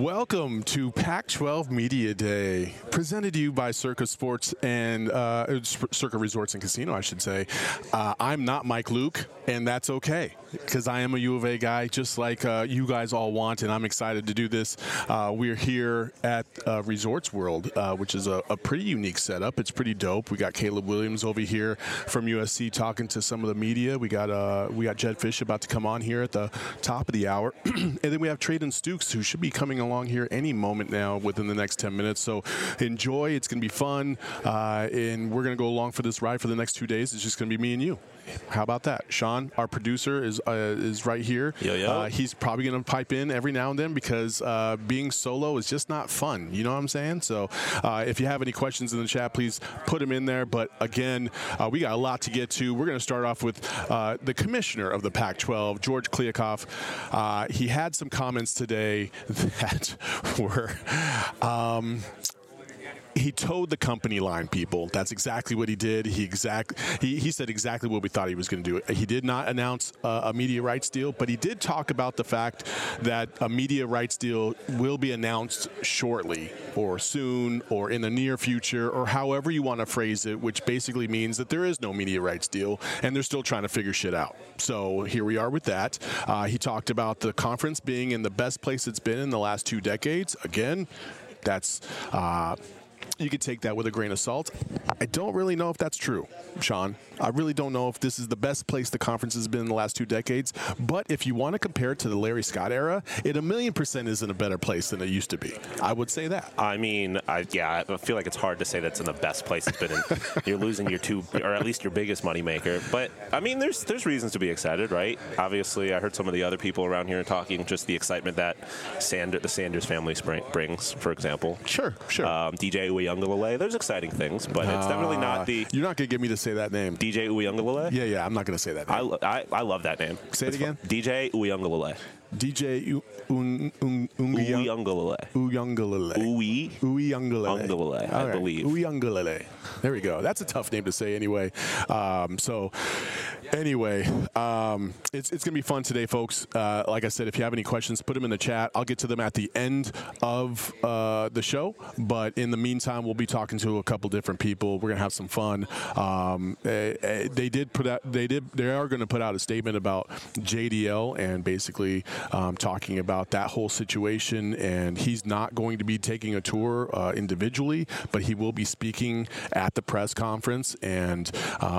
Welcome to Pac-12 Media Day, presented to you by Circa Sports and Circa Resorts and Casino, I should say. I'm not Mike Luke, and that's okay, because I am a U of A guy, just like you guys all want, and I'm excited to do this. We're here at Resorts World, which is a pretty unique setup. It's pretty dope. We got Caleb Williams over here from USC talking to some of the media. We got Jedd Fisch about to come on here at the top of the hour, and then we have Trayden Stukes, who should be coming along here any moment now within the next 10 minutes. So enjoy. It's going to be fun, and we're going to go along for this ride for the next 2 days. It's just going to be me and you. How about that? Sean, our producer, is right here. Yo. He's probably going to pipe in every now and then because being solo is just not fun. You know what I'm saying? So if you have any questions in the chat, please put them in there. But again, we got a lot to get to. We're going to start off with the commissioner of the Pac-12, George Kliavkoff. He had some comments today that were he towed the company line, people. That's exactly what he did. He said exactly what we thought he was going to do. He did not announce a media rights deal, but he did talk about the fact that a media rights deal will be announced shortly or soon or in the near future or however you want to phrase it, which basically means that there is no media rights deal and they're still trying to figure shit out. So here we are with that. He talked about the conference being in the best place it's been in the last 2 decades. Again, that's you could take that with a grain of salt. I don't really know if that's true, Sean. I really don't know if this is the best place the conference has been in the last 2 decades. But if you want to compare it to the Larry Scott era, it 1,000,000% is in a better place than it used to be. I would say that. I mean, I feel like it's hard to say that's in the best place it's been in. You're losing your two, or at least your biggest moneymaker. But, I mean, there's reasons to be excited, right? Obviously, I heard some of the other people around here talking, just the excitement that the Sanders family brings, for example. Sure. DJ Uiagalelei. There's exciting things, but it's definitely not the... You're not going to get me to say that name. DJ Uiagalelei? Yeah, I'm not going to say that name. I love that name. Say it again? DJ Uiagalelei. DJ Uiagalelei. Uiagalelei. I believe. Uiagalelei. There we go. That's a tough name to say anyway. It's going to be fun today, folks. Like I said, if you have any questions, put them in the chat. I'll get to them at the end of the show. But in the meantime, we'll be talking to a couple different people. We're going to have some fun. They are going to put out a statement about JDL and basically talking about that whole situation, and he's not going to be taking a tour individually, but he will be speaking at the press conference, and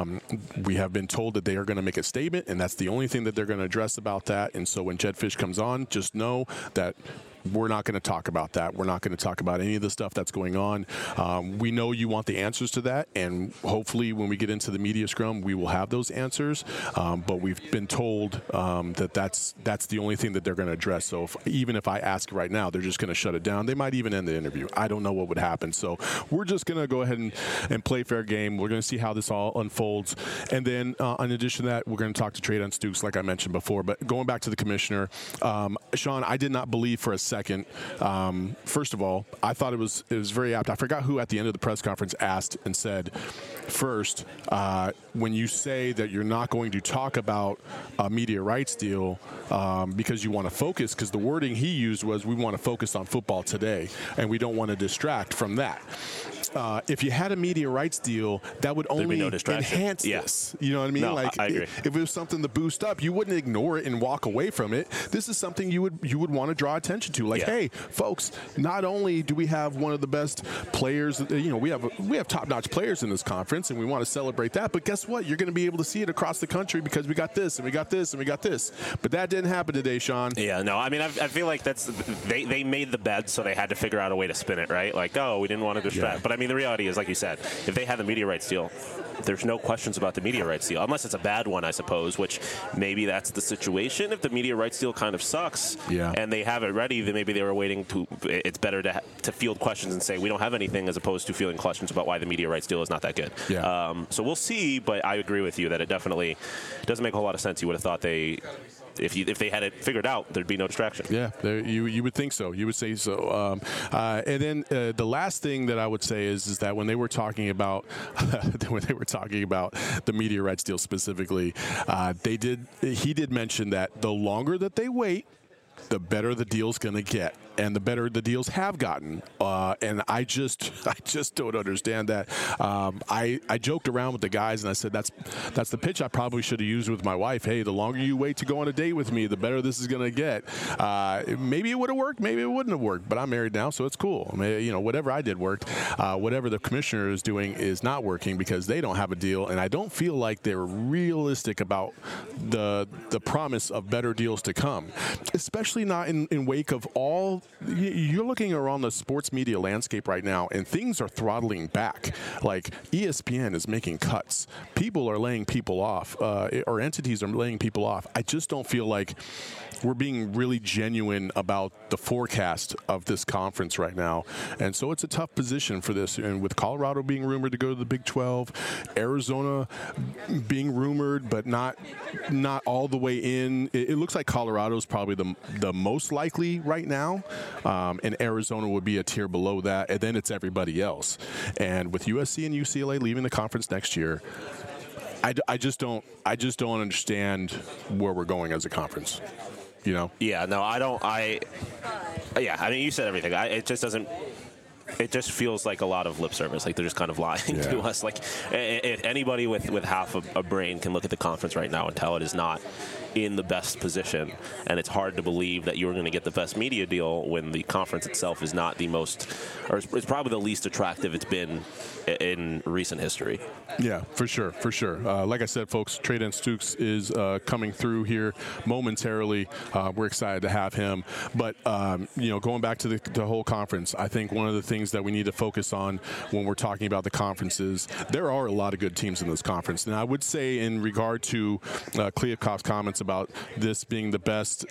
we have been told that they are going to make a statement, and that's the only thing that they're going to address about that. And so when Jedd Fisch comes on, just know that we're not going to talk about that. We're not going to talk about any of the stuff that's going on. We know you want the answers to that, and hopefully when we get into the media scrum, we will have those answers. But we've been told that that's the only thing that they're going to address. So even if I ask right now, they're just going to shut it down. They might even end the interview. I don't know what would happen. So we're just going to go ahead and play fair game. We're going to see how this all unfolds. And then in addition to that, we're going to talk to Trayden Stukes, like I mentioned before. But going back to the commissioner, Sean, I did not believe for a second. First of all, I thought it was very apt. I forgot who at the end of the press conference asked and said, first, when you say that you're not going to talk about a media rights deal because you want to focus, because the wording he used was, we want to focus on football today, and we don't want to distract from that. If you had a media rights deal, that would only enhance this. You know what I mean? No, like, I agree. If it was something to boost up, you wouldn't ignore it and walk away from it. This is something you would want to draw attention to. Like, hey, folks, not only do we have one of the best players, we have top-notch players in this conference, and we want to celebrate that. But guess what? You're going to be able to see it across the country because we got this, and we got this, and we got this. But that didn't happen today, Sean. Yeah, no. I mean, I feel like they made the bet, so they had to figure out a way to spin it, right? Like, oh, we didn't want to distract. Yeah. But I mean, the reality is, like you said, if they had the media rights deal, there's no questions about the media rights deal, unless it's a bad one, I suppose, which maybe that's the situation. If the media rights deal kind of sucks and they have it ready, then maybe they were waiting to – it's better to field questions and say we don't have anything as opposed to fielding questions about why the media rights deal is not that good. Yeah. So we'll see, but I agree with you that it definitely doesn't make a whole lot of sense. You would have thought if they had it figured out, there'd be no distraction. Yeah, you would think so. You would say so. And then the last thing that I would say is that when they were talking about the media rights deal specifically, he did mention that the longer that they wait, the better the deal's going to get. and the better the deals have gotten. And I just don't understand that. I joked around with the guys, and I said that's the pitch I probably should have used with my wife. Hey, the longer you wait to go on a date with me, the better this is going to get. Maybe it would have worked, maybe it wouldn't have worked, but I'm married now, so it's cool. I mean, whatever I did worked. Whatever the commissioner is doing is not working because they don't have a deal, and I don't feel like they're realistic about the promise of better deals to come, especially not in wake of all. You're looking around the sports media landscape right now, and things are throttling back. Like ESPN is making cuts. People are laying people off, or entities are laying people off. I just don't feel like we're being really genuine about the forecast of this conference right now. And so it's a tough position for this. And with Colorado being rumored to go to the Big 12, Arizona being rumored but not all the way in, it looks like Colorado's probably the most likely right now. And Arizona would be a tier below that. And then it's everybody else. And with USC and UCLA leaving the conference next year, I just don't understand where we're going as a conference. You know? Yeah, no, I don't. I mean, you said everything. It just doesn't. It just feels like a lot of lip service. Like they're just kind of lying to us. Like anybody with half a brain can look at the conference right now and tell it is not in the best position. And it's hard to believe that you're going to get the best media deal when the conference itself is not the most, or it's probably the least attractive it's been in recent history. Yeah, for sure. Like I said, folks, Treydan Stukes is coming through here momentarily. We're excited to have him. But, going back to the whole conference, I think one of the things that we need to focus on when we're talking about the conferences, there are a lot of good teams in this conference. And I would say in regard to Kliavkoff's comments about this being the best,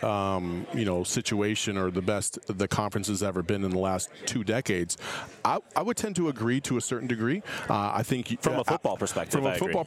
situation or the best the conference has ever been in the last 2 decades, I would tend to agree to a certain degree. I think from a football perspective,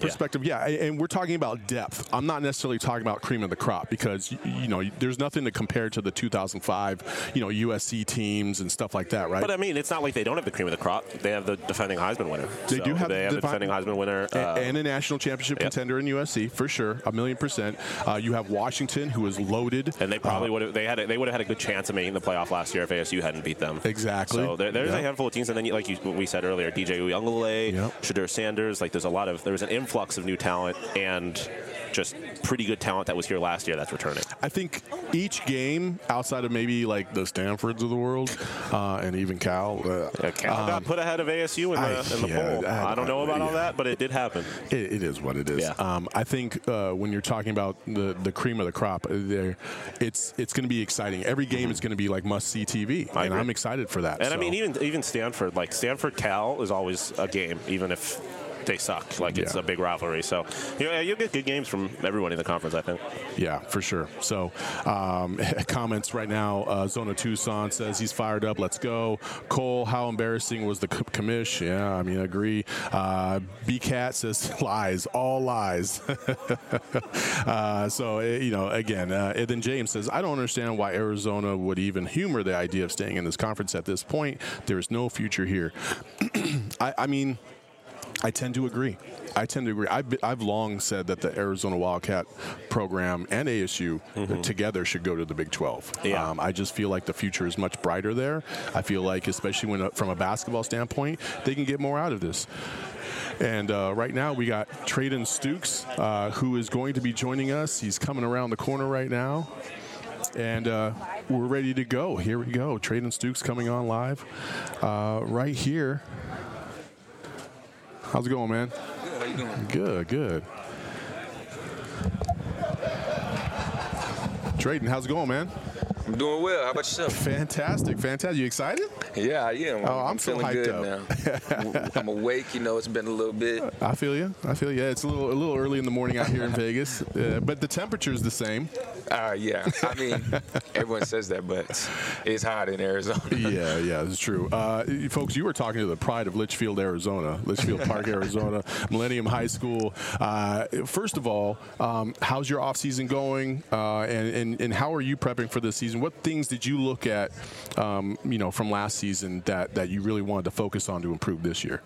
and we're talking about depth. I'm not necessarily talking about cream of the crop because there's nothing to compare to the 2005 USC teams and stuff like that, right? But I mean, it's not like they don't have the cream of the crop. They have the defending Heisman winner. They have the defending Heisman winner and a national championship contender in USC for sure, 1,000,000%. You have Washington, who is loaded, and they probably would have. They would have had a good chance of making the playoff last year if ASU hadn't beat them. Exactly. So there's a handful of teams, and then we said earlier, DJ Uiagalelei, Shedeur Sanders. Like there was an influx of new talent and just pretty good talent that was here last year that's returning. I think each game, outside of maybe like the Stanfords of the world and even Cal. Cal got put ahead of ASU in the poll. I don't know about all that, but it did happen. It is what it is. Yeah. I think when you're talking about the cream of the crop, it's going to be exciting. Every game is going to be like must-see TV, and I'm excited for that. And I mean, even Stanford, like Stanford-Cal is always a game, even if they suck. Like it's a big rivalry. So you'll get good games from everyone in the conference, I think. Yeah, for sure. So comments right now. Zona Tucson says he's fired up. Let's go. Cole, how embarrassing was the commish? Yeah, I mean, I agree. B-Cat says lies, all lies. Again, and then James says, I don't understand why Arizona would even humor the idea of staying in this conference at this point. There is no future here. I mean, I tend to agree. I've long said that the Arizona Wildcat program and ASU together should go to the Big 12. Yeah. I just feel like the future is much brighter there. I feel like, especially from a basketball standpoint, they can get more out of this. And right now we got Treydan Stukes, who is going to be joining us. He's coming around the corner right now. And we're ready to go. Here we go. Treydan Stukes coming on live right here. How's it going, man? Good. How you doing? Good. Treydan, how's it going, man? I'm doing well. How about yourself? Fantastic. You excited? Yeah, I am. I'm feeling hyped good now. I'm awake. It's been a little bit. I feel you. It's a little early in the morning out here in Vegas, but the temperature is the same. Yeah. I mean, everyone says that, but it's hot in Arizona. Yeah, it's true. Folks, you were talking to the pride of Litchfield, Arizona, Litchfield Park, Arizona, Millennium High School. First of all, how's your off season going, and how are you prepping for this season? What things did you look at, from last season that you really wanted to focus on to improve this year?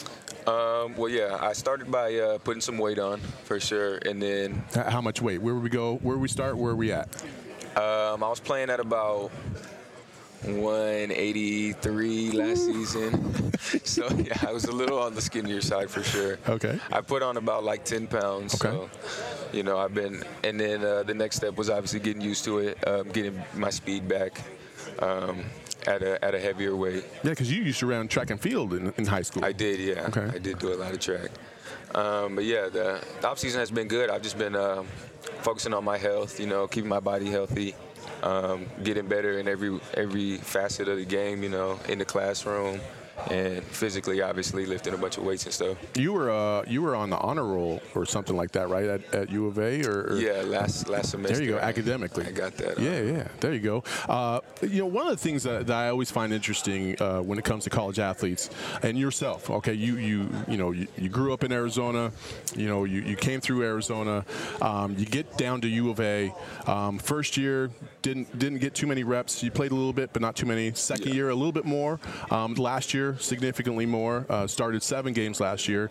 I started by putting some weight on for sure, and then how much weight? Where would we go? Where we start? Where are we at? I was playing at about 183 last season. So, yeah, I was a little on the skinnier side for sure. Okay. I put on about like 10 pounds. Okay. So, you know, and then the next step was obviously getting used to it, getting my speed back at a heavier weight. Yeah, because you used to run track and field in high school. I did, yeah. Okay. I did do a lot of track. But, yeah, the offseason has been good. I've just been focusing on my health, you know, keeping my body healthy. Getting better in every facet of the game, you know, in the classroom and physically, obviously, lifting a bunch of weights and stuff. You were on the honor roll or something like that, right, at U of A? Or Yeah, last semester. There you go, academically. I got that. Yeah, there you go. You know, one of the things that I always find interesting when it comes to college athletes, and yourself, okay, you grew up in Arizona, you know, you came through Arizona, you get down to U of A, first year didn't get too many reps. You played a little bit, but not too many. Second year, a little bit more. Last year, significantly more. Started 7 games last year.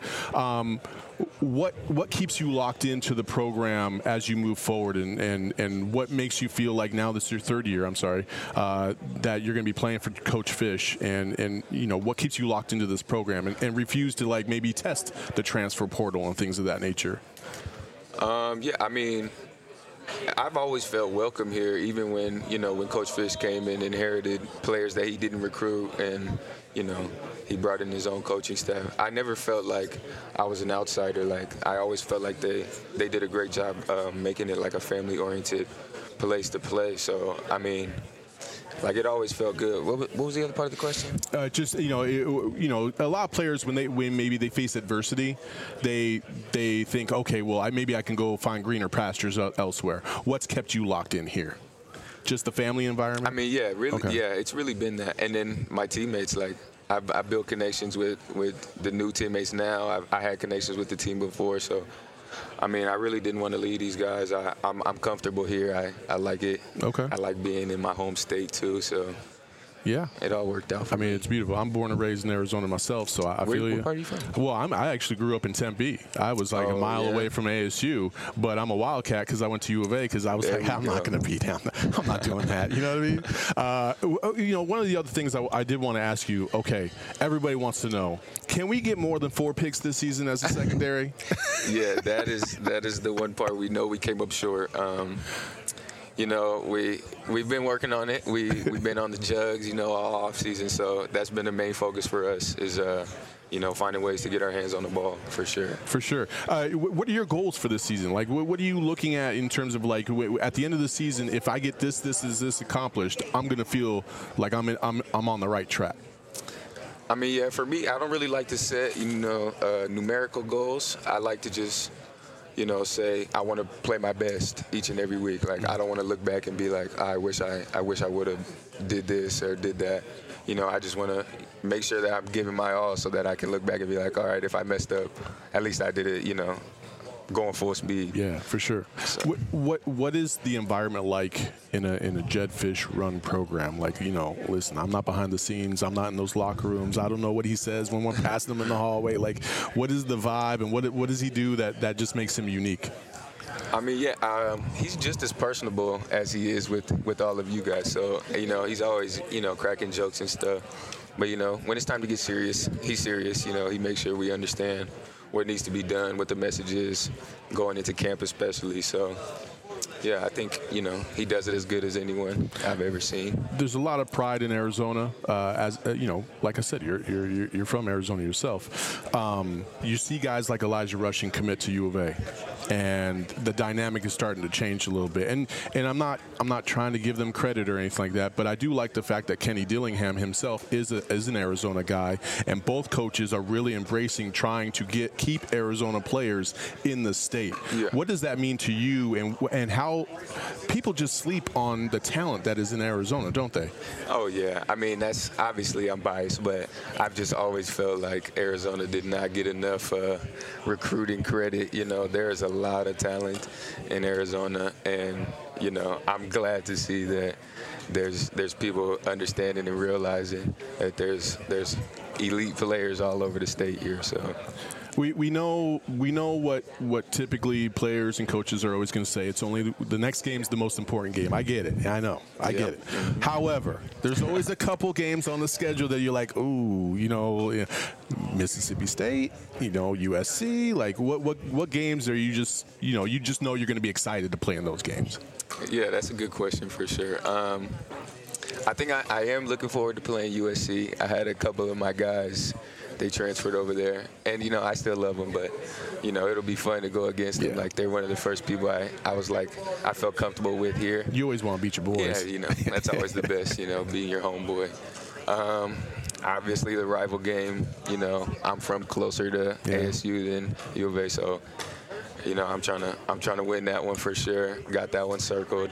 What keeps you locked into the program as you move forward, and what makes you feel like now this is your third year, that you're going to be playing for Coach Fish, and you know, what keeps you locked into this program and refuse to like maybe test the transfer portal and things of that nature? Yeah, I mean, I've always felt welcome here, even when Coach Fish came and inherited players that he didn't recruit, and he brought in his own coaching staff. I never felt like I was an outsider. Like, I always felt like they did a great job making it like a family-oriented place to play. So, I mean, like, it always felt good. What was the other part of the question? Just a lot of players when maybe they face adversity, they think, okay, well, maybe I can go find greener pastures elsewhere. What's kept you locked in here? Just the family environment? I mean, yeah, really, okay. Yeah, it's really been that. And then my teammates, like, I built connections with the new teammates now. I had connections with the team before, so. I mean, I really didn't want to leave these guys. I'm comfortable here. I like it. Okay. I like being in my home state too. So yeah, it all worked out for me. I mean, it's beautiful. I'm born and raised in Arizona myself, so I feel you. What part are you from? Well, I actually grew up in Tempe. I was like a mile away from ASU, but I'm a Wildcat because I went to U of A because I was I'm not going to be down there. I'm not doing that. You know what I mean? One of the other things I did want to ask you, okay, everybody wants to know, can we get more than 4 picks this season as a secondary? Yeah, that is the one part we know we came up short. We've been working on it. We've been on the jugs, all off season. So that's been the main focus for us is, finding ways to get our hands on the ball for sure. For sure. What are your goals for this season? Like, what are you looking at in terms of like at the end of the season? If I get this accomplished, I'm gonna feel like I'm on the right track. I mean, yeah. For me, I don't really like to set numerical goals. I like to just say I want to play my best each and every week. Like, I don't want to look back and be like, I wish I would have did this or did that. I just want to make sure that I'm giving my all so that I can look back and be like, all right, if I messed up, at least I did it, going full speed. Yeah, for sure. So. What is the environment like in a Jedd Fisch run program? Like, listen, I'm not behind the scenes. I'm not in those locker rooms. I don't know what he says when we're passing him in the hallway. Like, what is the vibe and what does he do that just makes him unique? I mean, yeah, he's just as personable as he is with all of you guys. So, he's always, cracking jokes and stuff. But, when it's time to get serious, he's serious. He makes sure we understand what needs to be done, what the message is going into camp especially. So, yeah, I think, he does it as good as anyone I've ever seen. There's a lot of pride in Arizona. Like I said, you're from Arizona yourself. You see guys like Elijah Rushing commit to U of A, and the dynamic is starting to change a little bit. And I'm not trying to give them credit or anything like that, but I do like the fact that Kenny Dillingham himself is an Arizona guy, and both coaches are really embracing trying to keep Arizona players in the state. Yeah. What does that mean to you, and how people just sleep on the talent that is in Arizona, don't they? Oh, yeah. I mean, that's obviously I'm biased, but I've just always felt like Arizona did not get enough recruiting credit. There's a lot of talent in Arizona, and, I'm glad to see that there's people understanding and realizing that there's elite players all over the state here. So. we know what typically players and coaches are always going to say. It's only the next game's the most important game. I get it. I know. I get it. However, there's always a couple games on the schedule that you're like, ooh, Mississippi State, USC. Like, what games are you just know you're going to be excited to play in those games? Yeah, that's a good question for sure. I think I am looking forward to playing USC. I had a couple of my guys, they transferred over there. And, I still love them, but, it'll be fun to go against them. Like, they're one of the first people I felt comfortable with here. You always want to beat your boys. Yeah, that's always the best, being your homeboy. Obviously, the rival game, I'm from closer to ASU than U of A, so, I'm trying to win that one for sure. Got that one circled.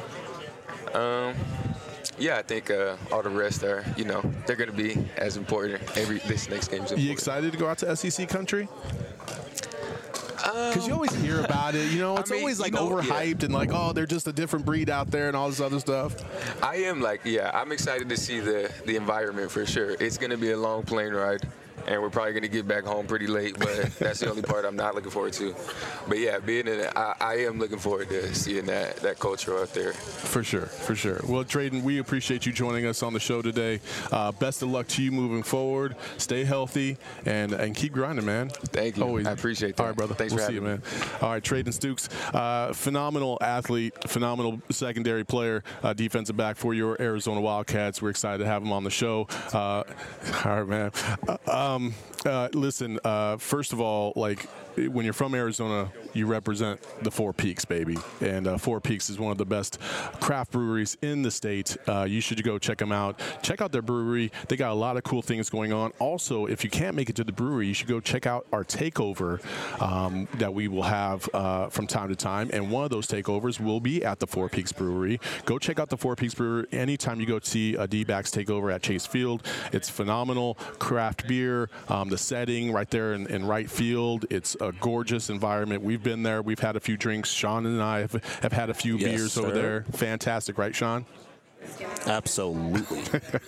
I think all the rest are, they're going to be as important. This next game's important. You excited to go out to SEC country? Because you always hear about it. It's always like overhyped and like, oh, they're just a different breed out there and all this other stuff. I am I'm excited to see the environment for sure. It's going to be a long plane ride. And we're probably going to get back home pretty late, but that's the only part I'm not looking forward to. But yeah, I am looking forward to seeing that culture out there. For sure. Well, Trayden, we appreciate you joining us on the show today. Best of luck to you moving forward. Stay healthy and keep grinding, man. Thank you. Always. I appreciate that. All right, brother. Thanks for having me. We'll see you, man. All right, Trayden Stukes, phenomenal athlete, phenomenal secondary player, defensive back for your Arizona Wildcats. We're excited to have him on the show. All right, man. Listen, first of all, like, when you're from Arizona, you represent the Four Peaks, baby. And Four Peaks is one of the best craft breweries in the state. You should go check them out. Check out their brewery. They got a lot of cool things going on. Also, if you can't make it to the brewery, you should go check out our takeover that we will have from time to time. And one of those takeovers will be at the Four Peaks Brewery. Go check out the Four Peaks Brewery anytime you go see a D-backs takeover at Chase Field. It's phenomenal craft beer. The setting right there in right field. It's a gorgeous environment. We've been there. We've had a few drinks. Sean and I have had a few beers over there. Fantastic, right, Sean? Absolutely.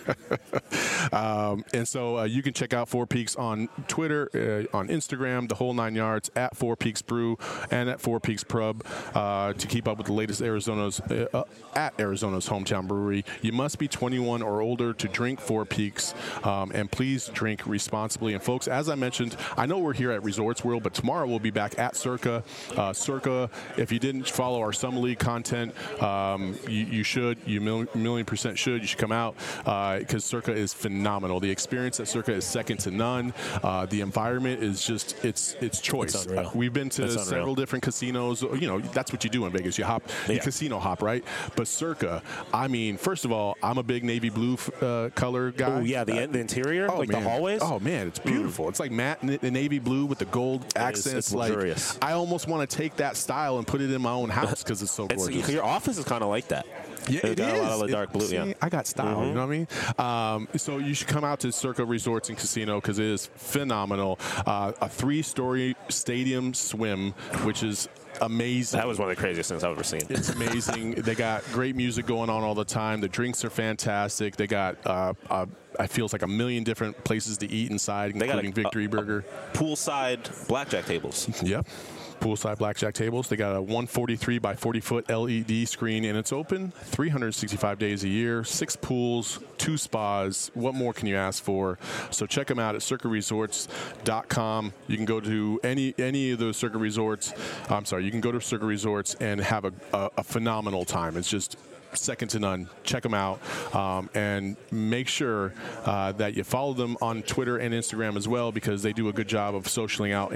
And so you can check out Four Peaks on Twitter, on Instagram, the whole 9 yards, at Four Peaks Brew and at Four Peaks Pub to keep up with the latest at Arizona's hometown brewery. You must be 21 or older to drink Four Peaks, and please drink responsibly. And folks, as I mentioned, I know we're here at Resorts World, but tomorrow we'll be back at Circa. Circa, if you didn't follow our Summer League content, you should. You million% should. You should come out because Circa is phenomenal. The experience at Circa is second to none. The environment is just it's choice. We've been to several different casinos. That's what you do in Vegas. You casino hop, right? But Circa, I mean, first of all, I'm a big navy blue color guy. Oh yeah, the interior, the hallways. Oh man, it's beautiful. It's like matte navy blue with the gold accents. It's luxurious. I almost want to take that style and put it in my own house because it's so gorgeous. Your office is kind of like that. Yeah, it got is. A lot of the dark blue. See, I got style. You know what I mean? So you should come out to Circa Resorts and Casino because it is phenomenal. A 3-story stadium swim, which is amazing. That was one of the craziest things I've ever seen. It's amazing. They got great music going on all the time. The drinks are fantastic. They got I feel it's like a million different places to eat inside, including Victory Burger. Poolside blackjack tables. Yep. Poolside blackjack tables. They got a 143 by 40 foot LED screen, and it's open 365 days a year. 6 pools, 2 spas. What more can you ask for? So check them out at circaresorts.com. You can go to any of those Circa Resorts. I'm sorry, you can go to Circa Resorts and have a phenomenal time. It's just second to none. Check them out, and make sure that you follow them on Twitter and Instagram as well, because they do a good job of socialing out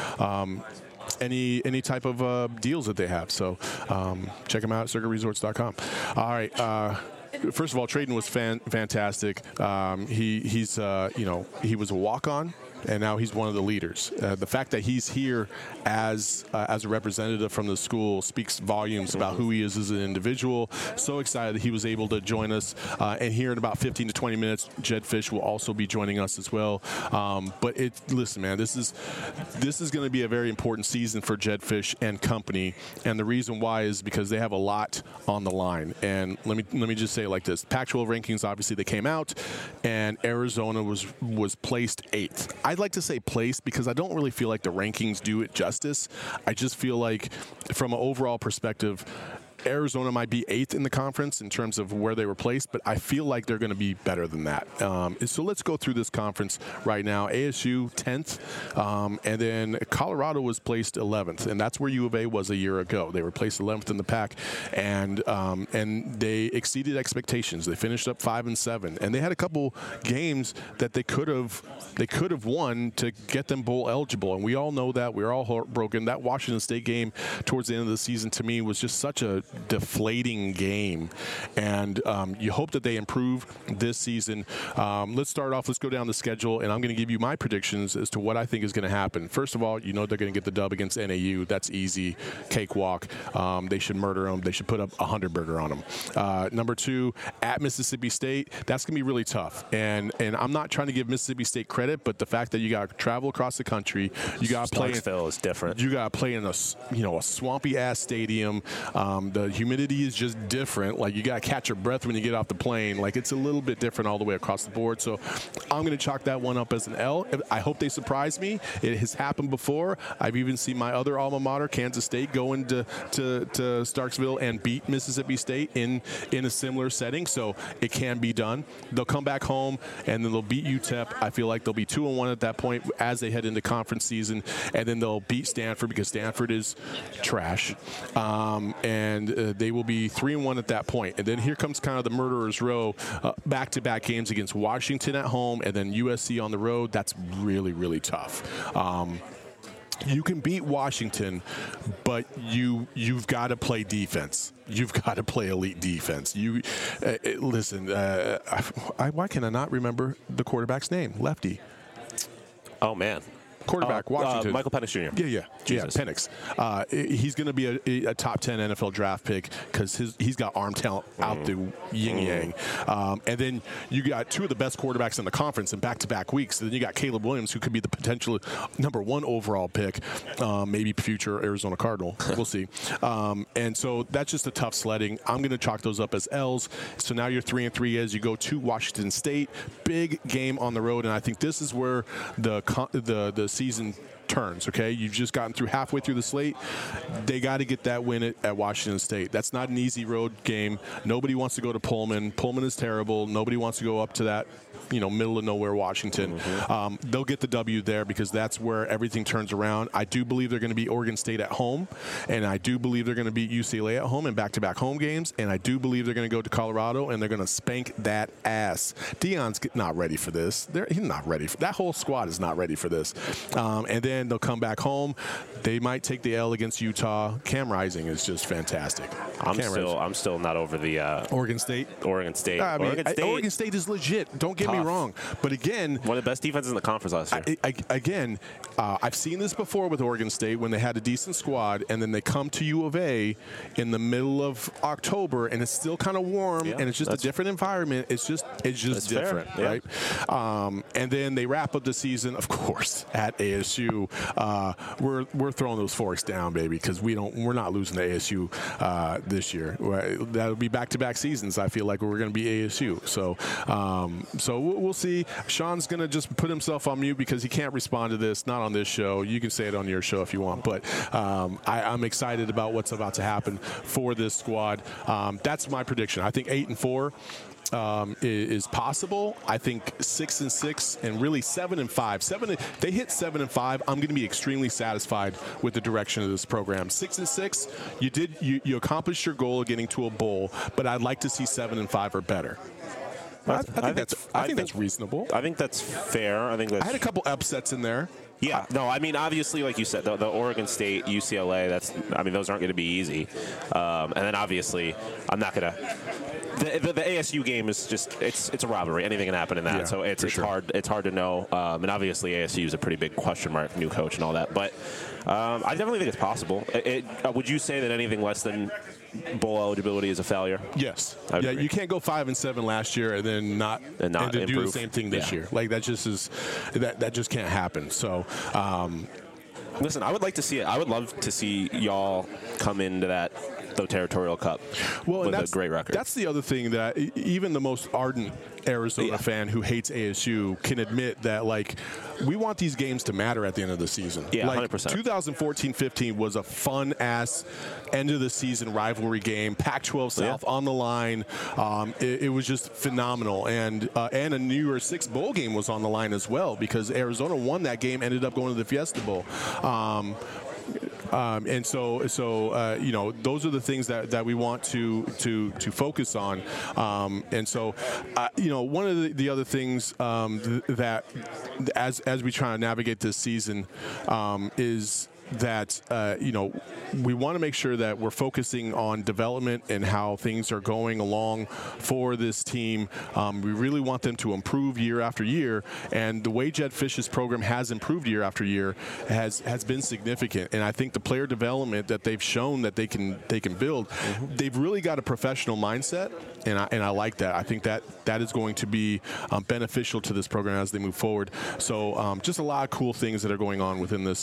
any type of deals that they have. So check them out at circaresorts.com. All right. First of all, Trayden was fantastic. He was a walk-on, and now he's one of the leaders. The fact that he's here as a representative from the school speaks volumes about who he is as an individual. So excited that he was able to join us. And here in about 15 to 20 minutes, Jedd Fisch will also be joining us as well. But listen, man, this is going to be a very important season for Jedd Fisch and company. And the reason why is because they have a lot on the line. And let me just say it like this: Pac-12 rankings, obviously, they came out, and Arizona was placed 8th. I'd like to say place because I don't really feel like the rankings do it justice. I just feel like from an overall perspective, Arizona might be 8th in the conference in terms of where they were placed, but I feel like they're going to be better than that. So let's go through this conference right now. ASU 10th, and then Colorado was placed 11th, and that's where U of A was a year ago. They were placed 11th in the pack, and they exceeded expectations. They finished up 5-7, and they had a couple games that they could have won to get them bowl eligible, and we all know that. We're all heartbroken. That Washington State game towards the end of the season to me was just such a deflating game, and you hope that they improve this season. Let's start off. Let's go down the schedule, and I'm going to give you my predictions as to what I think is going to happen. First of all, you know they're going to get the dub against NAU. That's easy, cakewalk. They should murder them. They should put up a 100-burger on them. Number 2, at Mississippi State, that's going to be really tough. And I'm not trying to give Mississippi State credit, but the fact that you got to travel across the country, you got to play. Starksville is different. You got to play in a swampy ass stadium. The humidity is just different. Like, you got to catch your breath when you get off the plane. Like, it's a little bit different all the way across the board. So I'm going to chalk that one up as an L. I hope they surprise me. It has happened before. I've even seen my other alma mater, Kansas State, go into to Starksville and beat Mississippi State in a similar setting. So it can be done. They'll come back home, and then they'll beat UTEP. I feel like they'll be 2-1 at that point as they head into conference season, and then they'll beat Stanford because Stanford is trash. And they will be 3-1 at that point. And then here comes kind of the murderer's row, back-to-back games against Washington at home and then USC on the road. That's really, really tough. You can beat Washington, but you've got to play defense. You've got to play elite defense. Listen, why can I not remember the quarterback's name? Lefty. Oh, man. Quarterback, Washington. Michael Penix Jr. Yeah, Penix. He's going to be a top 10 NFL draft pick because he's got arm talent out the yin-yang. And then you got 2 of the best quarterbacks in the conference in back-to-back weeks. And then you got Caleb Williams, who could be the potential number 1 overall pick, maybe future Arizona Cardinal. We'll see. And so that's just a tough sledding. I'm going to chalk those up as L's. So now you're 3-3 as you go to Washington State. Big game on the road, and I think this is where the season turns. Okay, you've just gotten through halfway through the slate. They got to get that win at Washington State. That's not an easy road game. Nobody wants to go to Pullman. Pullman is terrible. Nobody wants to go up to that middle of nowhere Washington. They'll get the W there because that's where everything turns around. I do believe they're going to beat Oregon State at home, and I do believe they're going to beat UCLA at home in back-to-back home games, and I do believe they're going to go to Colorado and they're going to spank that ass. Deion's not ready for this. He's not ready. That whole squad is not ready for this. And then they'll come back home. They might take the L against Utah. Cam Rising is just fantastic. I'm still not over the Oregon State. Oregon State. Oregon State is legit. Don't get me wrong. But again, one of the best defenses in the conference last year. I've seen this before with Oregon State when they had a decent squad, and then they come to U of A in the middle of October, and it's still kind of warm, and it's just a different environment. It's just different, right? And then they wrap up the season, of course, at ASU. We're throwing those forks down, baby, because we're not losing to ASU this year. That'll be back-to-back seasons. I feel like we're going to be ASU. So we'll see. Sean's going to just put himself on mute because he can't respond to this. Not on this show. You can say it on your show if you want, but I'm excited about what's about to happen for this squad. That's my prediction. I think 8-4. Is possible. I think 6-6 and really 7-5. They hit 7-5. I'm going to be extremely satisfied with the direction of this program. 6-6, you accomplished your goal of getting to a bowl, but I'd like to see 7-5 or better. I think that's reasonable. I think that's fair. I had a couple upsets in there. Yeah, no, I mean, obviously, like you said, the Oregon State, UCLA, those aren't going to be easy. And then obviously, I'm not going to. The ASU game is just it's a robbery. Anything can happen in that, so it's hard to know. And obviously, ASU is a pretty big question mark, new coach and all that. But I definitely think it's possible. Would you say that anything less than bowl eligibility is a failure? Yes. Yeah, you can't go 5-7 last year and then not do the same thing this year. Like that just can't happen. So. Listen, I would like to see it. I would love to see y'all come into that the Territorial Cup with a great record. That's the other thing that even the most ardent Arizona fan who hates ASU can admit that, like, we want these games to matter at the end of the season. Yeah, like, 100%. 2014-15 was a fun-ass end-of-the-season rivalry game. Pac-12 South on the line. It was just phenomenal. And a New Year's Six bowl game was on the line as well, because Arizona won that game, ended up going to the Fiesta Bowl. And so you know, those are the things that we want to focus on. And so, you know, one of the other things that as we try to navigate this season is that, you know, we want to make sure that we're focusing on development and how things are going along for this team. We really want them to improve year after year, and the way Jedd Fisch's program has improved year after year has been significant. And I think the player development that they've shown that they can build, they've really got a professional mindset, and I like that. I think that is going to be beneficial to this program as they move forward. So just a lot of cool things that are going on within this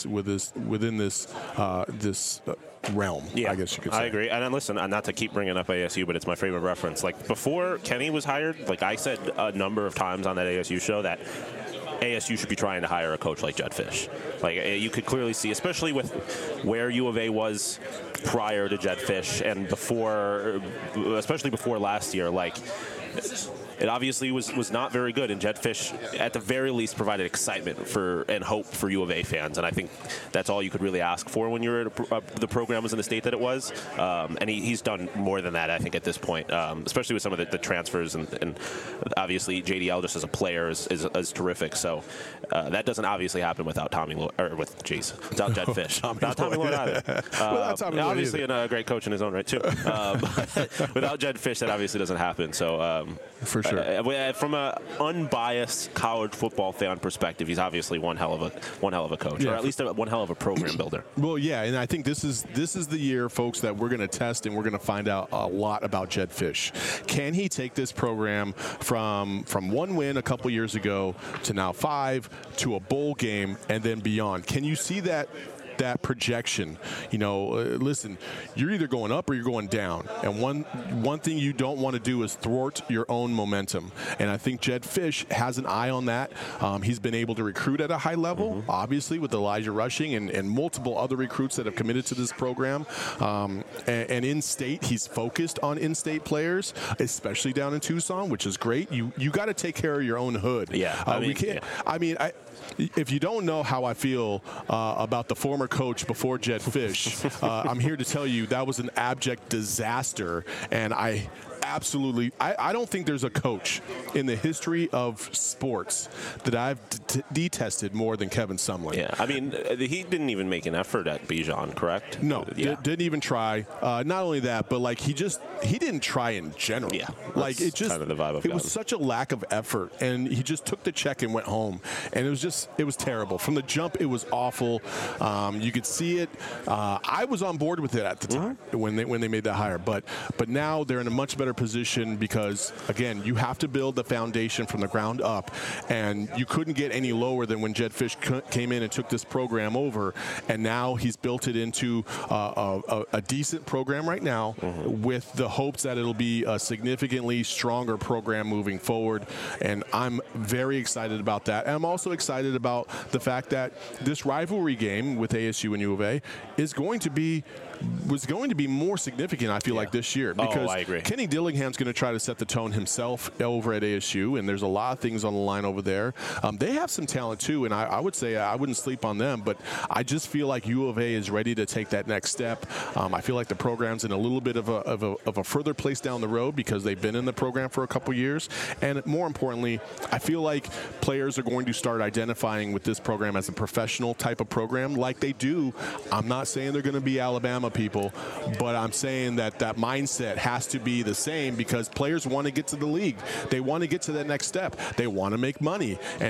realm, yeah, I guess you could say. I agree. And then listen, not to keep bringing up ASU, but it's my favorite reference. Like, before Kenny was hired, like, I said a number of times on that ASU show that ASU should be trying to hire a coach like Jedd Fisch. Like, you could clearly see, especially with where U of A was prior to Jedd Fisch and before, especially before last year, like, it obviously was not very good, and Jedd Fisch, at the very least, provided excitement and hope for U of A fans, and I think that's all you could really ask for when you're the program was in the state that it was. And he's done more than that, I think, at this point, especially with some of the transfers, and obviously JDL just as a player is terrific. So that doesn't obviously happen without without Jedd Fisch, without Tommy Lloyd either. Obviously, a great coach in his own right too. Without Jedd Fisch, that obviously doesn't happen. So for sure. From an unbiased college football fan perspective, he's obviously one hell of a coach, or at least one hell of a program builder. Well, yeah, and I think this is the year, folks, that we're going to test and we're going to find out a lot about Jedd Fisch. Can he take this program from one win a couple years ago to now 5 to a bowl game and then beyond? Can you see that projection? You know, listen, you're either going up or you're going down, and one thing you don't want to do is thwart your own momentum, and I think Jedd Fisch has an eye on that. He's been able to recruit at a high level, obviously, with Elijah Rushing and multiple other recruits that have committed to this program, and in-state, he's focused on in-state players, especially down in Tucson, which is great. You got to take care of your own hood. Yeah, we can't. I mean, if you don't know how I feel about the former coach before Jedd Fisch, I'm here to tell you that was an abject disaster, and I don't think there's a coach in the history of sports that I've detested more than Kevin Sumlin. Yeah, I mean, he didn't even make an effort at Bijan, correct? No, didn't even try. Not only that, but like he didn't try in general. Yeah, like it just kind of the vibe it was such a lack of effort, and he just took the check and went home, and it was terrible from the jump. It was awful. You could see it. I was on board with it at the time when they made that hire, but now they're in a much better position because, again, you have to build the foundation from the ground up, and you couldn't get any lower than when Jedd Fisch came in and took this program over, and now he's built it into a decent program right now with the hopes that it'll be a significantly stronger program moving forward, and I'm very excited about that. And I'm also excited about the fact that this rivalry game with ASU and U of A was going to be more significant, I feel like, this year, because I agree. Kenny Dillingham's going to try to set the tone himself over at ASU, and there's a lot of things on the line over there. They have some talent too, and I would say I wouldn't sleep on them, but I just feel like U of A is ready to take that next step. I feel like the program's in a little bit of a further place down the road because they've been in the program for a couple years, and more importantly, I feel like players are going to start identifying with this program as a professional type of program like they do. I'm not saying they're going to be Alabama people, but I'm saying that mindset has to be the same because players want to get to the league. They want to get to that next step. They want to make money, and you can't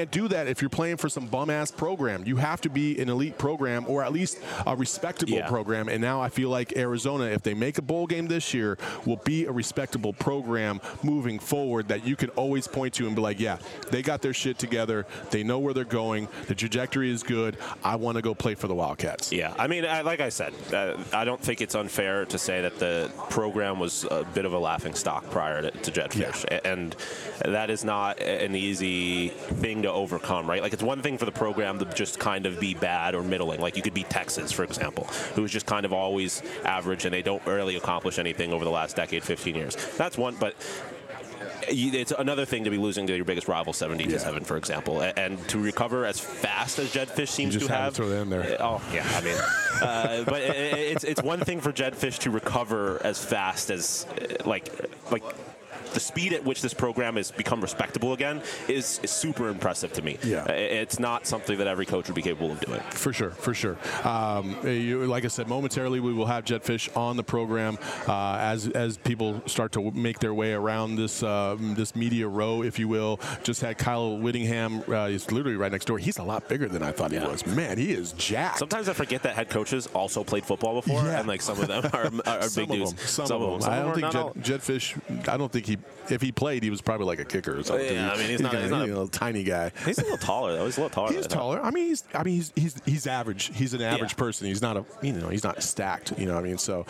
can't do that if you're playing for some bum-ass program. You have to be an elite program or at least a respectable program. And now I feel like Arizona, if they make a bowl game this year, will be a respectable program moving forward that you can always point to and be like, yeah, they got their shit together. They know where they're going. The trajectory is good. I want to go play for the Wildcats. Yeah, I mean, like I said, I don't think it's unfair to say that the program was a bit of a laughing stock prior to Jedd Fisch. Yeah. And that is not an easy thing to overcome, right? Like, it's one thing for the program to just kind of be bad or middling. Like, you could be Texas, for example, who's just kind of always average and they don't really accomplish anything over the last decade, 15 years. That's one, but it's another thing to be losing to your biggest rival 70-7, for example, and to recover as fast as Jedd Fisch seems to have. Throw that in there. Oh yeah, I mean, but it's one thing for Jedd Fisch to recover as fast as like the speed at which this program has become respectable again is super impressive to me. Yeah. It's not something that every coach would be capable of doing. For sure, for sure. Like I said, momentarily we will have Jedd Fisch on the program as people start to make their way around this this media row, if you will. Just had Kyle Whittingham. He's literally right next door. He's a lot bigger than I thought he was. Man, he is jacked. Sometimes I forget that head coaches also played football before, and like some of them are big dudes. Some of them. I don't think Jedd Fisch. I don't think if he played, he was probably like a kicker or something. Yeah, I mean, he's not a little tiny guy. He's a little taller though. He's a little taller. He's taller. I mean, he's average. He's an average person. He's not he's not stacked. You know what I mean? So.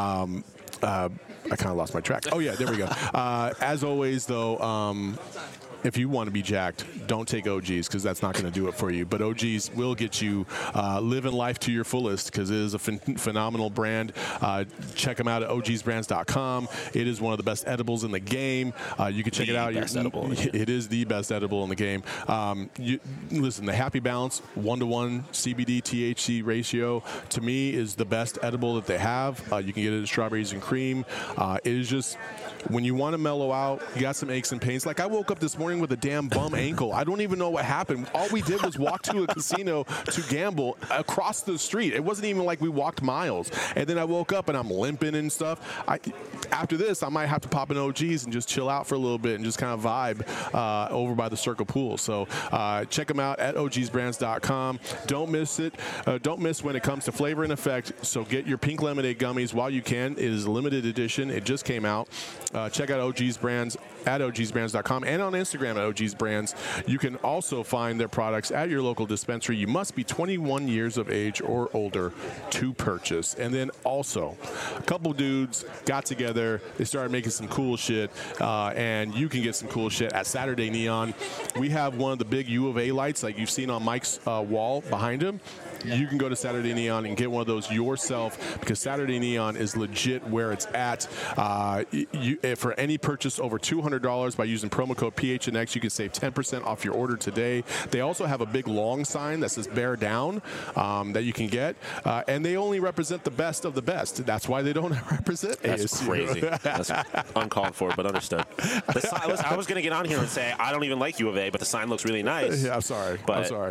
I kind of lost my track. Oh yeah, there we go. As always, though. If you want to be jacked, don't take OGs because that's not going to do it for you. But OGs will get you living life to your fullest because it is a phenomenal brand. Check them out at ogsbrands.com. It is one of the best edibles in the game. You can check it out. It is the best edible in the game. Listen, the Happy Balance 1-to-1 CBD THC ratio to me is the best edible that they have. You can get it at Strawberries and Cream. It is just when you want to mellow out, you got some aches and pains. Like I woke up this morning with a damn bum ankle. I don't even know what happened. All we did was walk to a casino to gamble across the street. It wasn't even like we walked miles. And then I woke up and I'm limping and stuff. After this, I might have to pop in OGs and just chill out for a little bit and just kind of vibe over by the Circle Pool. So check them out at ogsbrands.com. Don't miss it. Don't miss when it comes to flavor and effect. So get your pink lemonade gummies while you can. It is a limited edition. It just came out. Check out OG's Brands at ogsbrands.com and on Instagram at OG's Brands. You can also find their products at your local dispensary. You must be 21 years of age or older to purchase. And then also, a couple dudes got together. They started making some cool shit, and you can get some cool shit at Saturday Neon. We have one of the big U of A lights like you've seen on Mike's wall behind him. You can go to Saturday Neon and get one of those yourself because Saturday Neon is legit where it's at. For any purchase over $200 by using promo code PHNX, you can save 10% off your order today. They also have a big long sign that says bear down that you can get. And they only represent the best of the best. That's why they don't represent That's ASU. Crazy. That's uncalled for, but understood. I was going to get on here and say, I don't even like U of A, but the sign looks really nice. Yeah, I'm sorry.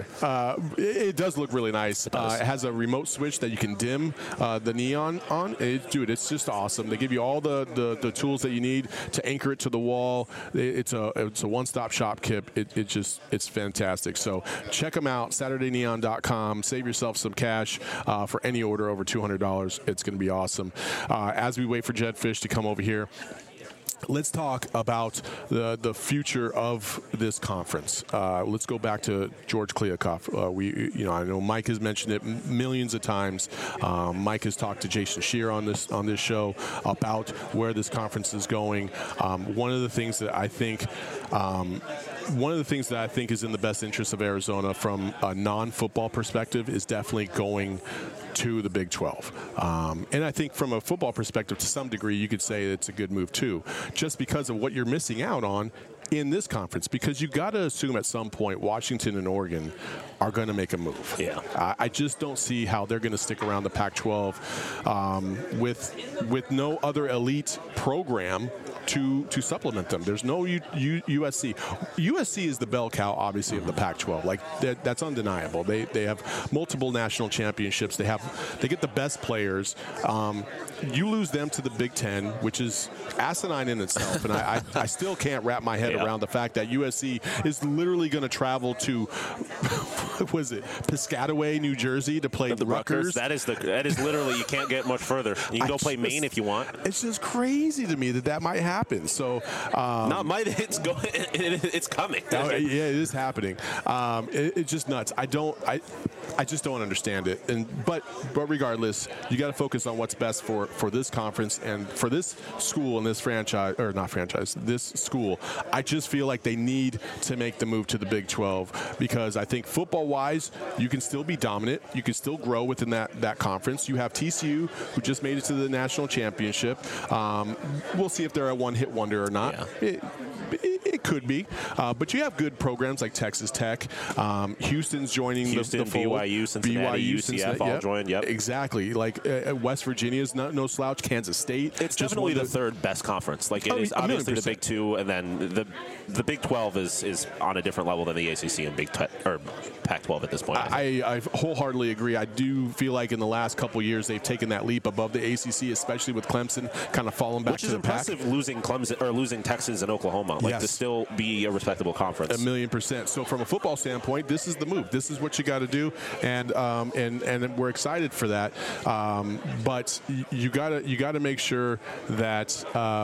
It does look really nice. It has a remote switch that you can dim the neon on. Dude, it's just awesome. They give you all the tools that you need to anchor it to the wall. It's a one-stop shop, Kip. It's fantastic. So check them out, SaturdayNeon.com. Save yourself some cash for any order over $200. It's going to be awesome. As we wait for Jedd Fisch to come over here, let's talk about the future of this conference. Let's go back to George Kliavkoff. I know Mike has mentioned it millions of times. Mike has talked to Jason Scheer on this show about where this conference is going. One of the things that I think is in the best interest of Arizona from a non-football perspective is definitely going to the Big 12. And I think from a football perspective, to some degree, you could say it's a good move too, just because of what you're missing out on in this conference, because you got to assume at some point Washington and Oregon are going to make a move. Yeah. I just don't see how they're going to stick around the Pac-12 with no other elite program to supplement them. There's no USC. USC is the bell cow, obviously, of the Pac-12. Like that's undeniable. They have multiple national championships. They get the best players. You lose them to the Big Ten, which is asinine in itself, and I still can't wrap my head around the fact that USC is literally going to travel to what was it, Piscataway, New Jersey, to play the Rutgers. That is literally, you can't get much further. You can go play Maine if you want. It's just crazy to me that might happen. So it's coming. Yeah, it is happening. It's just nuts. I just don't understand it. But regardless, you got to focus on what's best for this conference and for this school and this this school. I just feel like they need to make the move to the Big 12 because I think football-wise, you can still be dominant. You can still grow within that conference. You have TCU, who just made it to the national championship. We'll see if they're a one-hit wonder or not. Yeah. It could be, but you have good programs like Texas Tech. Houston's joining the fold. BYU, Cincinnati, UCF all joined. Yep, exactly. Like West Virginia's no slouch. Kansas State. It's just definitely the third best conference. Like it is obviously the Big Two, and then the Big 12 is on a different level than the ACC and Pac-12 at this point. I wholeheartedly agree. I do feel like in the last couple years they've taken that leap above the ACC, especially with Clemson kind of falling back to the pack. Which is impressive, losing Clemson or losing Texas and Oklahoma. Like to still be a respectable conference. 1,000,000%. So from a football standpoint, this is the move. This is what you got to do, and we're excited for that. But you gotta make sure that.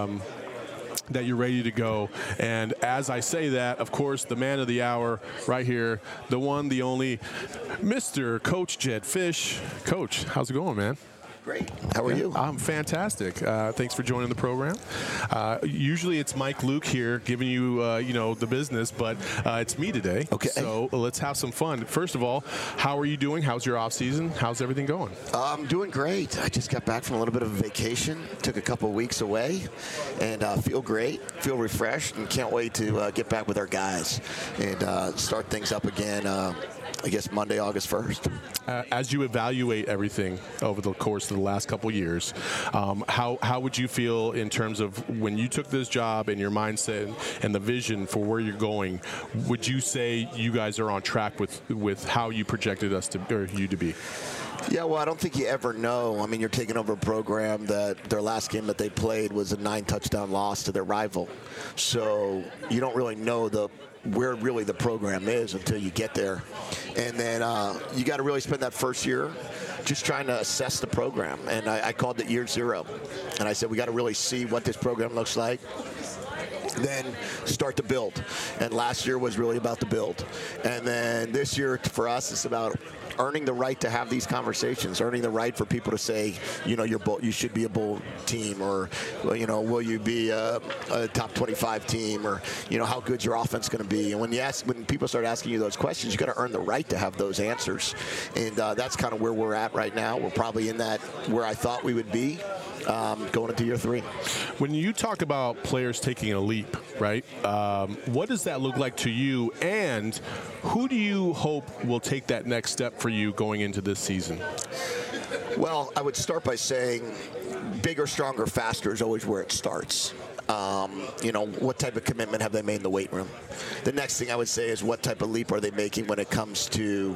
That you're ready to go. And as I say that, of course, the man of the hour right here, the one, the only, Mr. Coach Jedd Fisch. Coach, how's it going, man? Great. How are you? I'm fantastic. Thanks for joining the program. Usually it's Mike Luke here giving you, the business, but it's me today. Okay. So let's have some fun. First of all, how are you doing? How's your off season? How's everything going? I'm doing great. I just got back from a little bit of a vacation. Took a couple of weeks away, and feel great. Feel refreshed, and can't wait to get back with our guys and start things up again. I guess Monday, August 1st. As you evaluate everything over the course of the last couple of years, how would you feel in terms of when you took this job and your mindset and the vision for where you're going? Would you say you guys are on track with how you projected us you to be? Yeah, well, I don't think you ever know. I mean, you're taking over a program that their last game that they played was a 9-touchdown loss to their rival. So you don't really know where really the program is until you get there. And then you got to really spend that first year just trying to assess the program. And I called it year zero. And I said, we got to really see what this program looks like. Then start to build. And last year was really about the build. And then this year for us it's about earning the right to have these conversations, earning the right for people to say, you should be a bowl team, or, will you be a top 25 team, or, how good's your offense going to be? And when people start asking you those questions, you got to earn the right to have those answers. And that's kind of where we're at right now. We're probably in that where I thought we would be going into year 3. When you talk about players taking a leap, right, what does that look like to you, and who do you hope will take that next step for you going into this season? Well, I would start by saying bigger, stronger, faster is always where it starts. What type of commitment have they made in the weight room? The next thing I would say is what type of leap are they making when it comes to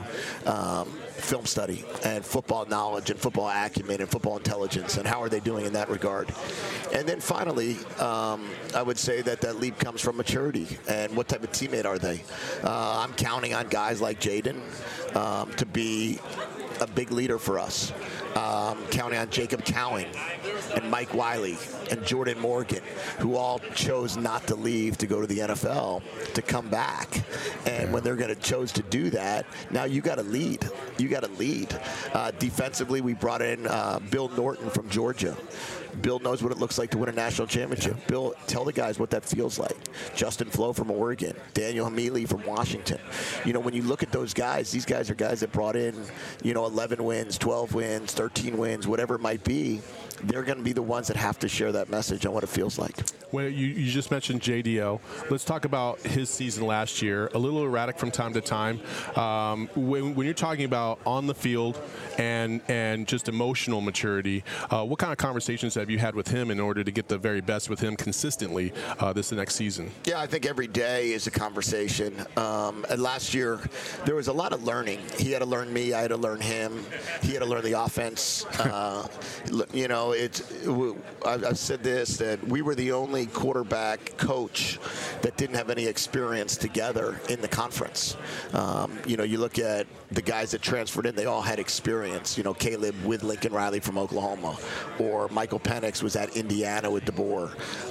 film study and football knowledge and football acumen and football intelligence, and how are they doing in that regard? And then finally, I would say that leap comes from maturity and what type of teammate are they? I'm counting on guys like Jaden to be a big leader for us. Counting on Jacob Cowing and Mike Wiley and Jordan Morgan, who all chose not to leave to go to the NFL, to come back. And when they're going to chose to do that, now you got to lead. You got to lead. Defensively, we brought in Bill Norton from Georgia. Bill knows what it looks like to win a national championship. Yeah. Bill, tell the guys what that feels like. Justin Flo from Oregon. Daniel Hamili from Washington. When you look at those guys, these guys are guys that brought in, 11 wins, 12 wins, 13 13 wins, whatever it might be, they're going to be the ones that have to share that message on what it feels like. Well, you just mentioned JDL. Let's talk about his season last year. A little erratic from time to time. When you're talking about on the field and just emotional maturity, what kind of conversations have you had with him in order to get the very best with him consistently this next season? Yeah, I think every day is a conversation. And last year, there was a lot of learning. He had to learn me. I had to learn him. He had to learn the offense. You know, I've said this, that we were the only quarterback coach that didn't have any experience together in the conference. You know, you look at the guys that transferred in, they all had experience. You know, Caleb with Lincoln Riley from Oklahoma, or Michael Penix was at Indiana with DeBoer.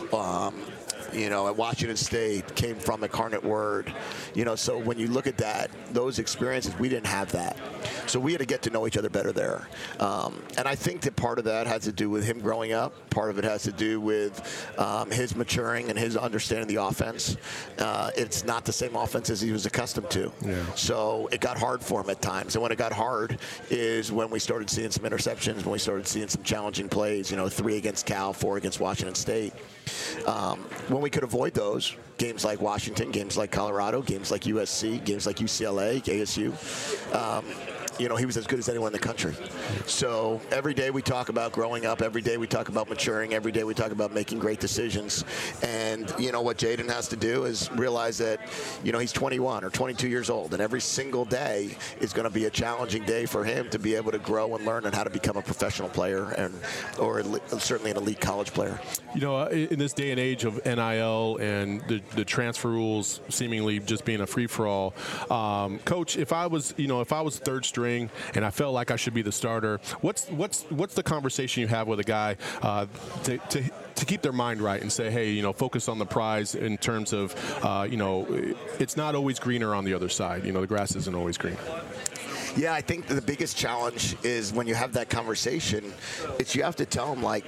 You know, at Washington State, came from Incarnate Word. You know, so when you look at that, those experiences, we didn't have that. So we had to get to know each other better there. And I think that part of that has to do with him growing up. Part of it has to do with his maturing and his understanding the offense. It's not the same offense as he was accustomed to. Yeah. So it got hard for him at times. And when it got hard is when we started seeing some interceptions, when we started seeing some challenging plays, you know, 3 against Cal, 4 against Washington State. When we could avoid those, games like Washington, games like Colorado, games like USC, games like UCLA, ASU, you know, he was as good as anyone in the country. So every day we talk about growing up. Every day we talk about maturing. Every day we talk about making great decisions. And, you know, what Jaden has to do is realize that, you know, he's 21 or 22 years old. And every single day is going to be a challenging day for him to be able to grow and learn on how to become a professional player or certainly an elite college player. You know, in this day and age of NIL and the transfer rules seemingly just being a free-for-all, Coach, if I was third string and I felt like I should be the starter, what's the conversation you have with a guy to keep their mind right and say, hey, you know, focus on the prize in terms of, you know, it's not always greener on the other side. You know, the grass isn't always green. Yeah, I think the biggest challenge is when you have that conversation, you have to tell them, like,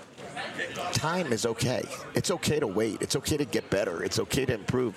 time is okay. It's okay to wait. It's okay to get better. It's okay to improve.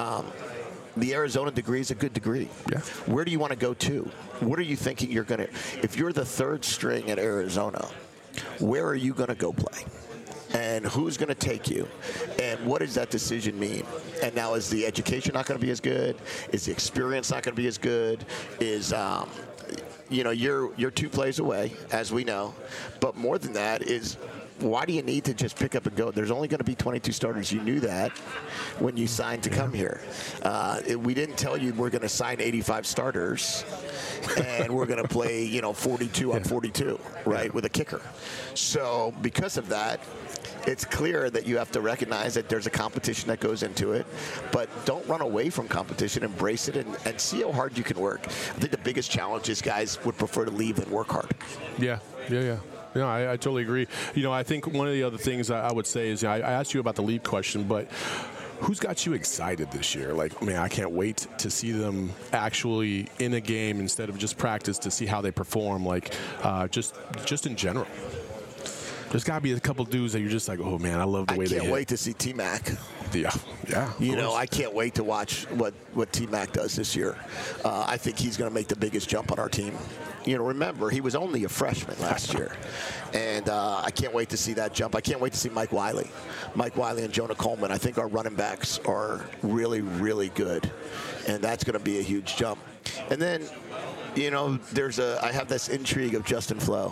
The Arizona degree is a good degree. Yeah. Where do you want to go to? What are you thinking you're going to – if you're the third string at Arizona, where are you going to go play? And who's going to take you? And what does that decision mean? And now, is the education not going to be as good? Is the experience not going to be as good? Is you know, you're 2 plays away, as we know. But more than that is – why do you need to just pick up and go? There's only going to be 22 starters. You knew that when you signed to come here. We didn't tell you we're going to sign 85 starters and we're going to play, you know, 42 on 42, right, with a kicker. So because of that, it's clear that you have to recognize that there's a competition that goes into it, but don't run away from competition. Embrace it and see how hard you can work. I think the biggest challenge is guys would prefer to leave than work hard. Yeah. No, I totally agree. You know, I think one of the other things I would say is, you know, I asked you about the leap question, but who's got you excited this year? Like, man, I can't wait to see them actually in a game instead of just practice, to see how they perform, like just in general. There's got to be a couple dudes that you're just like, oh, man, I love the way they hit. I can't wait to see T-Mac. Yeah. You know, I can't wait to watch what T-Mac does this year. I think he's going to make the biggest jump on our team. You know, remember, he was only a freshman last year. And I can't wait to see that jump. I can't wait to see Mike Wiley. Mike Wiley and Jonah Coleman. I think our running backs are really, really good. And that's going to be a huge jump. And then, you know, I have this intrigue of Justin Flo.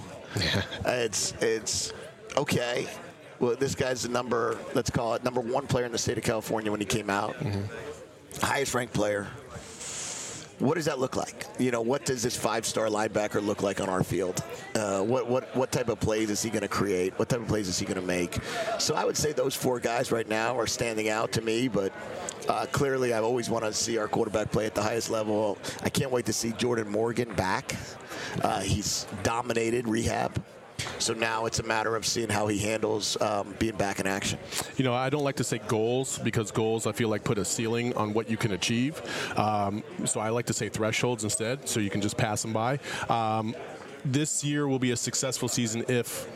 It's okay. Well, this guy's let's call it number 1 player in the state of California when he came out. Mm-hmm. Highest ranked player. What does that look like? You know, what does this 5-star linebacker look like on our field? What type of plays is he going to create? What type of plays is he going to make? So I would say those 4 guys right now are standing out to me, but clearly I always want to see our quarterback play at the highest level. I can't wait to see Jordan Morgan back. He's dominated rehab. So now it's a matter of seeing how he handles being back in action. You know, I don't like to say goals, because goals, I feel like, put a ceiling on what you can achieve. So I like to say thresholds instead, so you can just pass them by. This year will be a successful season if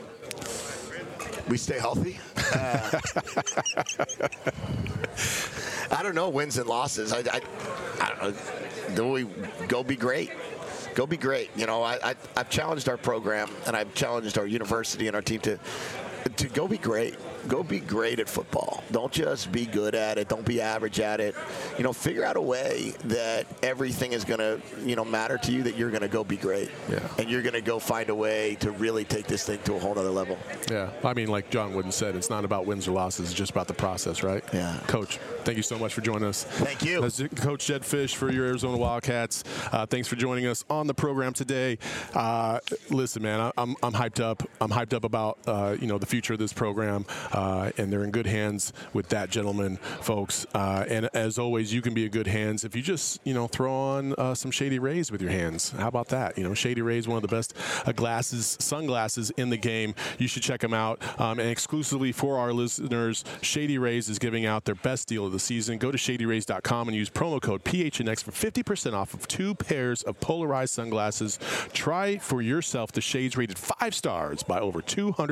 we stay healthy. I don't know, wins and losses. I don't know. Do we go be great? Go be great. You know, I've challenged our program, and I've challenged our university and our team to go be great. Go be great at football. Don't just be good at it. Don't be average at it. You know, figure out a way that everything is going to, you know, matter to you, that you're going to go be great. Yeah. And you're going to go find a way to really take this thing to a whole other level. Yeah. I mean, like John Wooden said, it's not about wins or losses. It's just about the process, right? Yeah. Coach, thank you so much for joining us. Thank you. That's Coach Jedd Fisch for your Arizona Wildcats. Thanks for joining us on the program today. Listen, man, I'm hyped up. I'm hyped up about, you know, the future of this program, and they're in good hands with that gentleman, folks. And as always, you can be in good hands if you just, you know, throw on some Shady Rays with your hands. How about that? You know, Shady Rays, one of the best sunglasses in the game. You should check them out. And exclusively for our listeners, Shady Rays is giving out their best deal of the season. Go to shadyrays.com and use promo code PHNX for 50% off of 2 pairs of polarized sunglasses. Try for yourself the shades rated 5 stars by over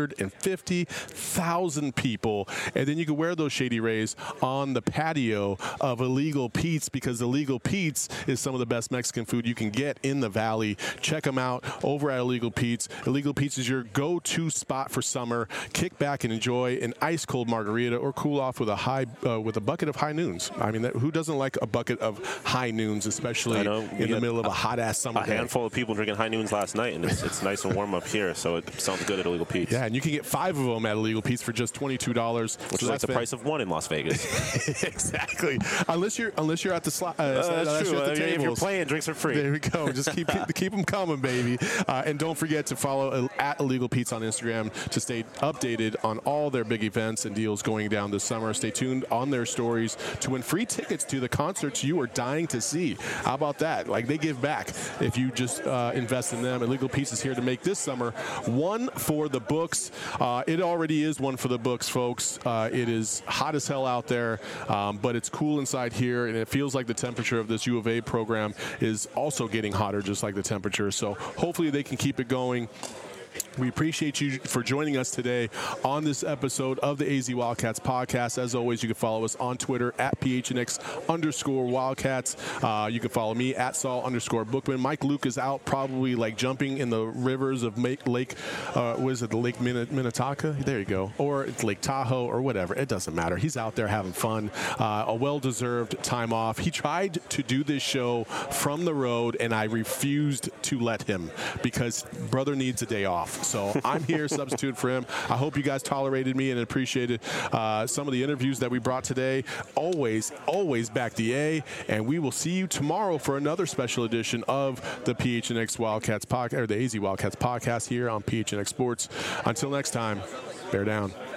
250,000 people. And then you can wear those Shady Rays on the patio of Illegal Pete's, because Illegal Pete's is some of the best Mexican food you can get in the Valley. Check them out over at Illegal Pete's. Illegal Pete's is your go-to spot for summer. Kick back and enjoy an ice-cold margarita, or cool off with a bucket of High Noons. I mean, who doesn't like a bucket of High Noons, especially in the middle of a hot-ass summer day? A handful of people drinking High Noons last night, and it's nice and warm up here, so it sounds good at Illegal Pete's. Yeah, and you can get 5 of them at Illegal Pete's for just $22. Which is like the price of 1 in Las Vegas. Exactly. Unless you're at the slot. That's true. If you're playing, drinks are free. There we go. Just keep them coming, baby. And don't forget to follow at Illegal Pete's on Instagram to stay updated on all their big events and deals going down this summer. Stay tuned on their stories to win free tickets to the concerts you are dying to see. How about that? Like, they give back if you just invest in them. Illegal Pete's is here to make this summer one for the books. It already is one for the books, folks. It is hot as hell out there, but it's cool inside here, and it feels like the temperature of this U of A program is also getting hotter, just like the temperature. So hopefully they can keep it going. We appreciate you for joining us today on this episode of the AZ Wildcats podcast. As always, you can follow us on Twitter at PHNX_Wildcats. You can follow me at Saul_Bookman. Mike Luke is out probably like jumping in the rivers of Lake Minnetonka? There you go. Or it's Lake Tahoe or whatever. It doesn't matter. He's out there having fun. A well-deserved time off. He tried to do this show from the road, and I refused to let him because brother needs a day off. So I'm here, substitute for him. I hope you guys tolerated me and appreciated some of the interviews that we brought today. Always back the A, and we will see you tomorrow for another special edition of the PHNX Wildcats podcast, or the AZ Wildcats podcast here on PHNX Sports. Until next time, bear down.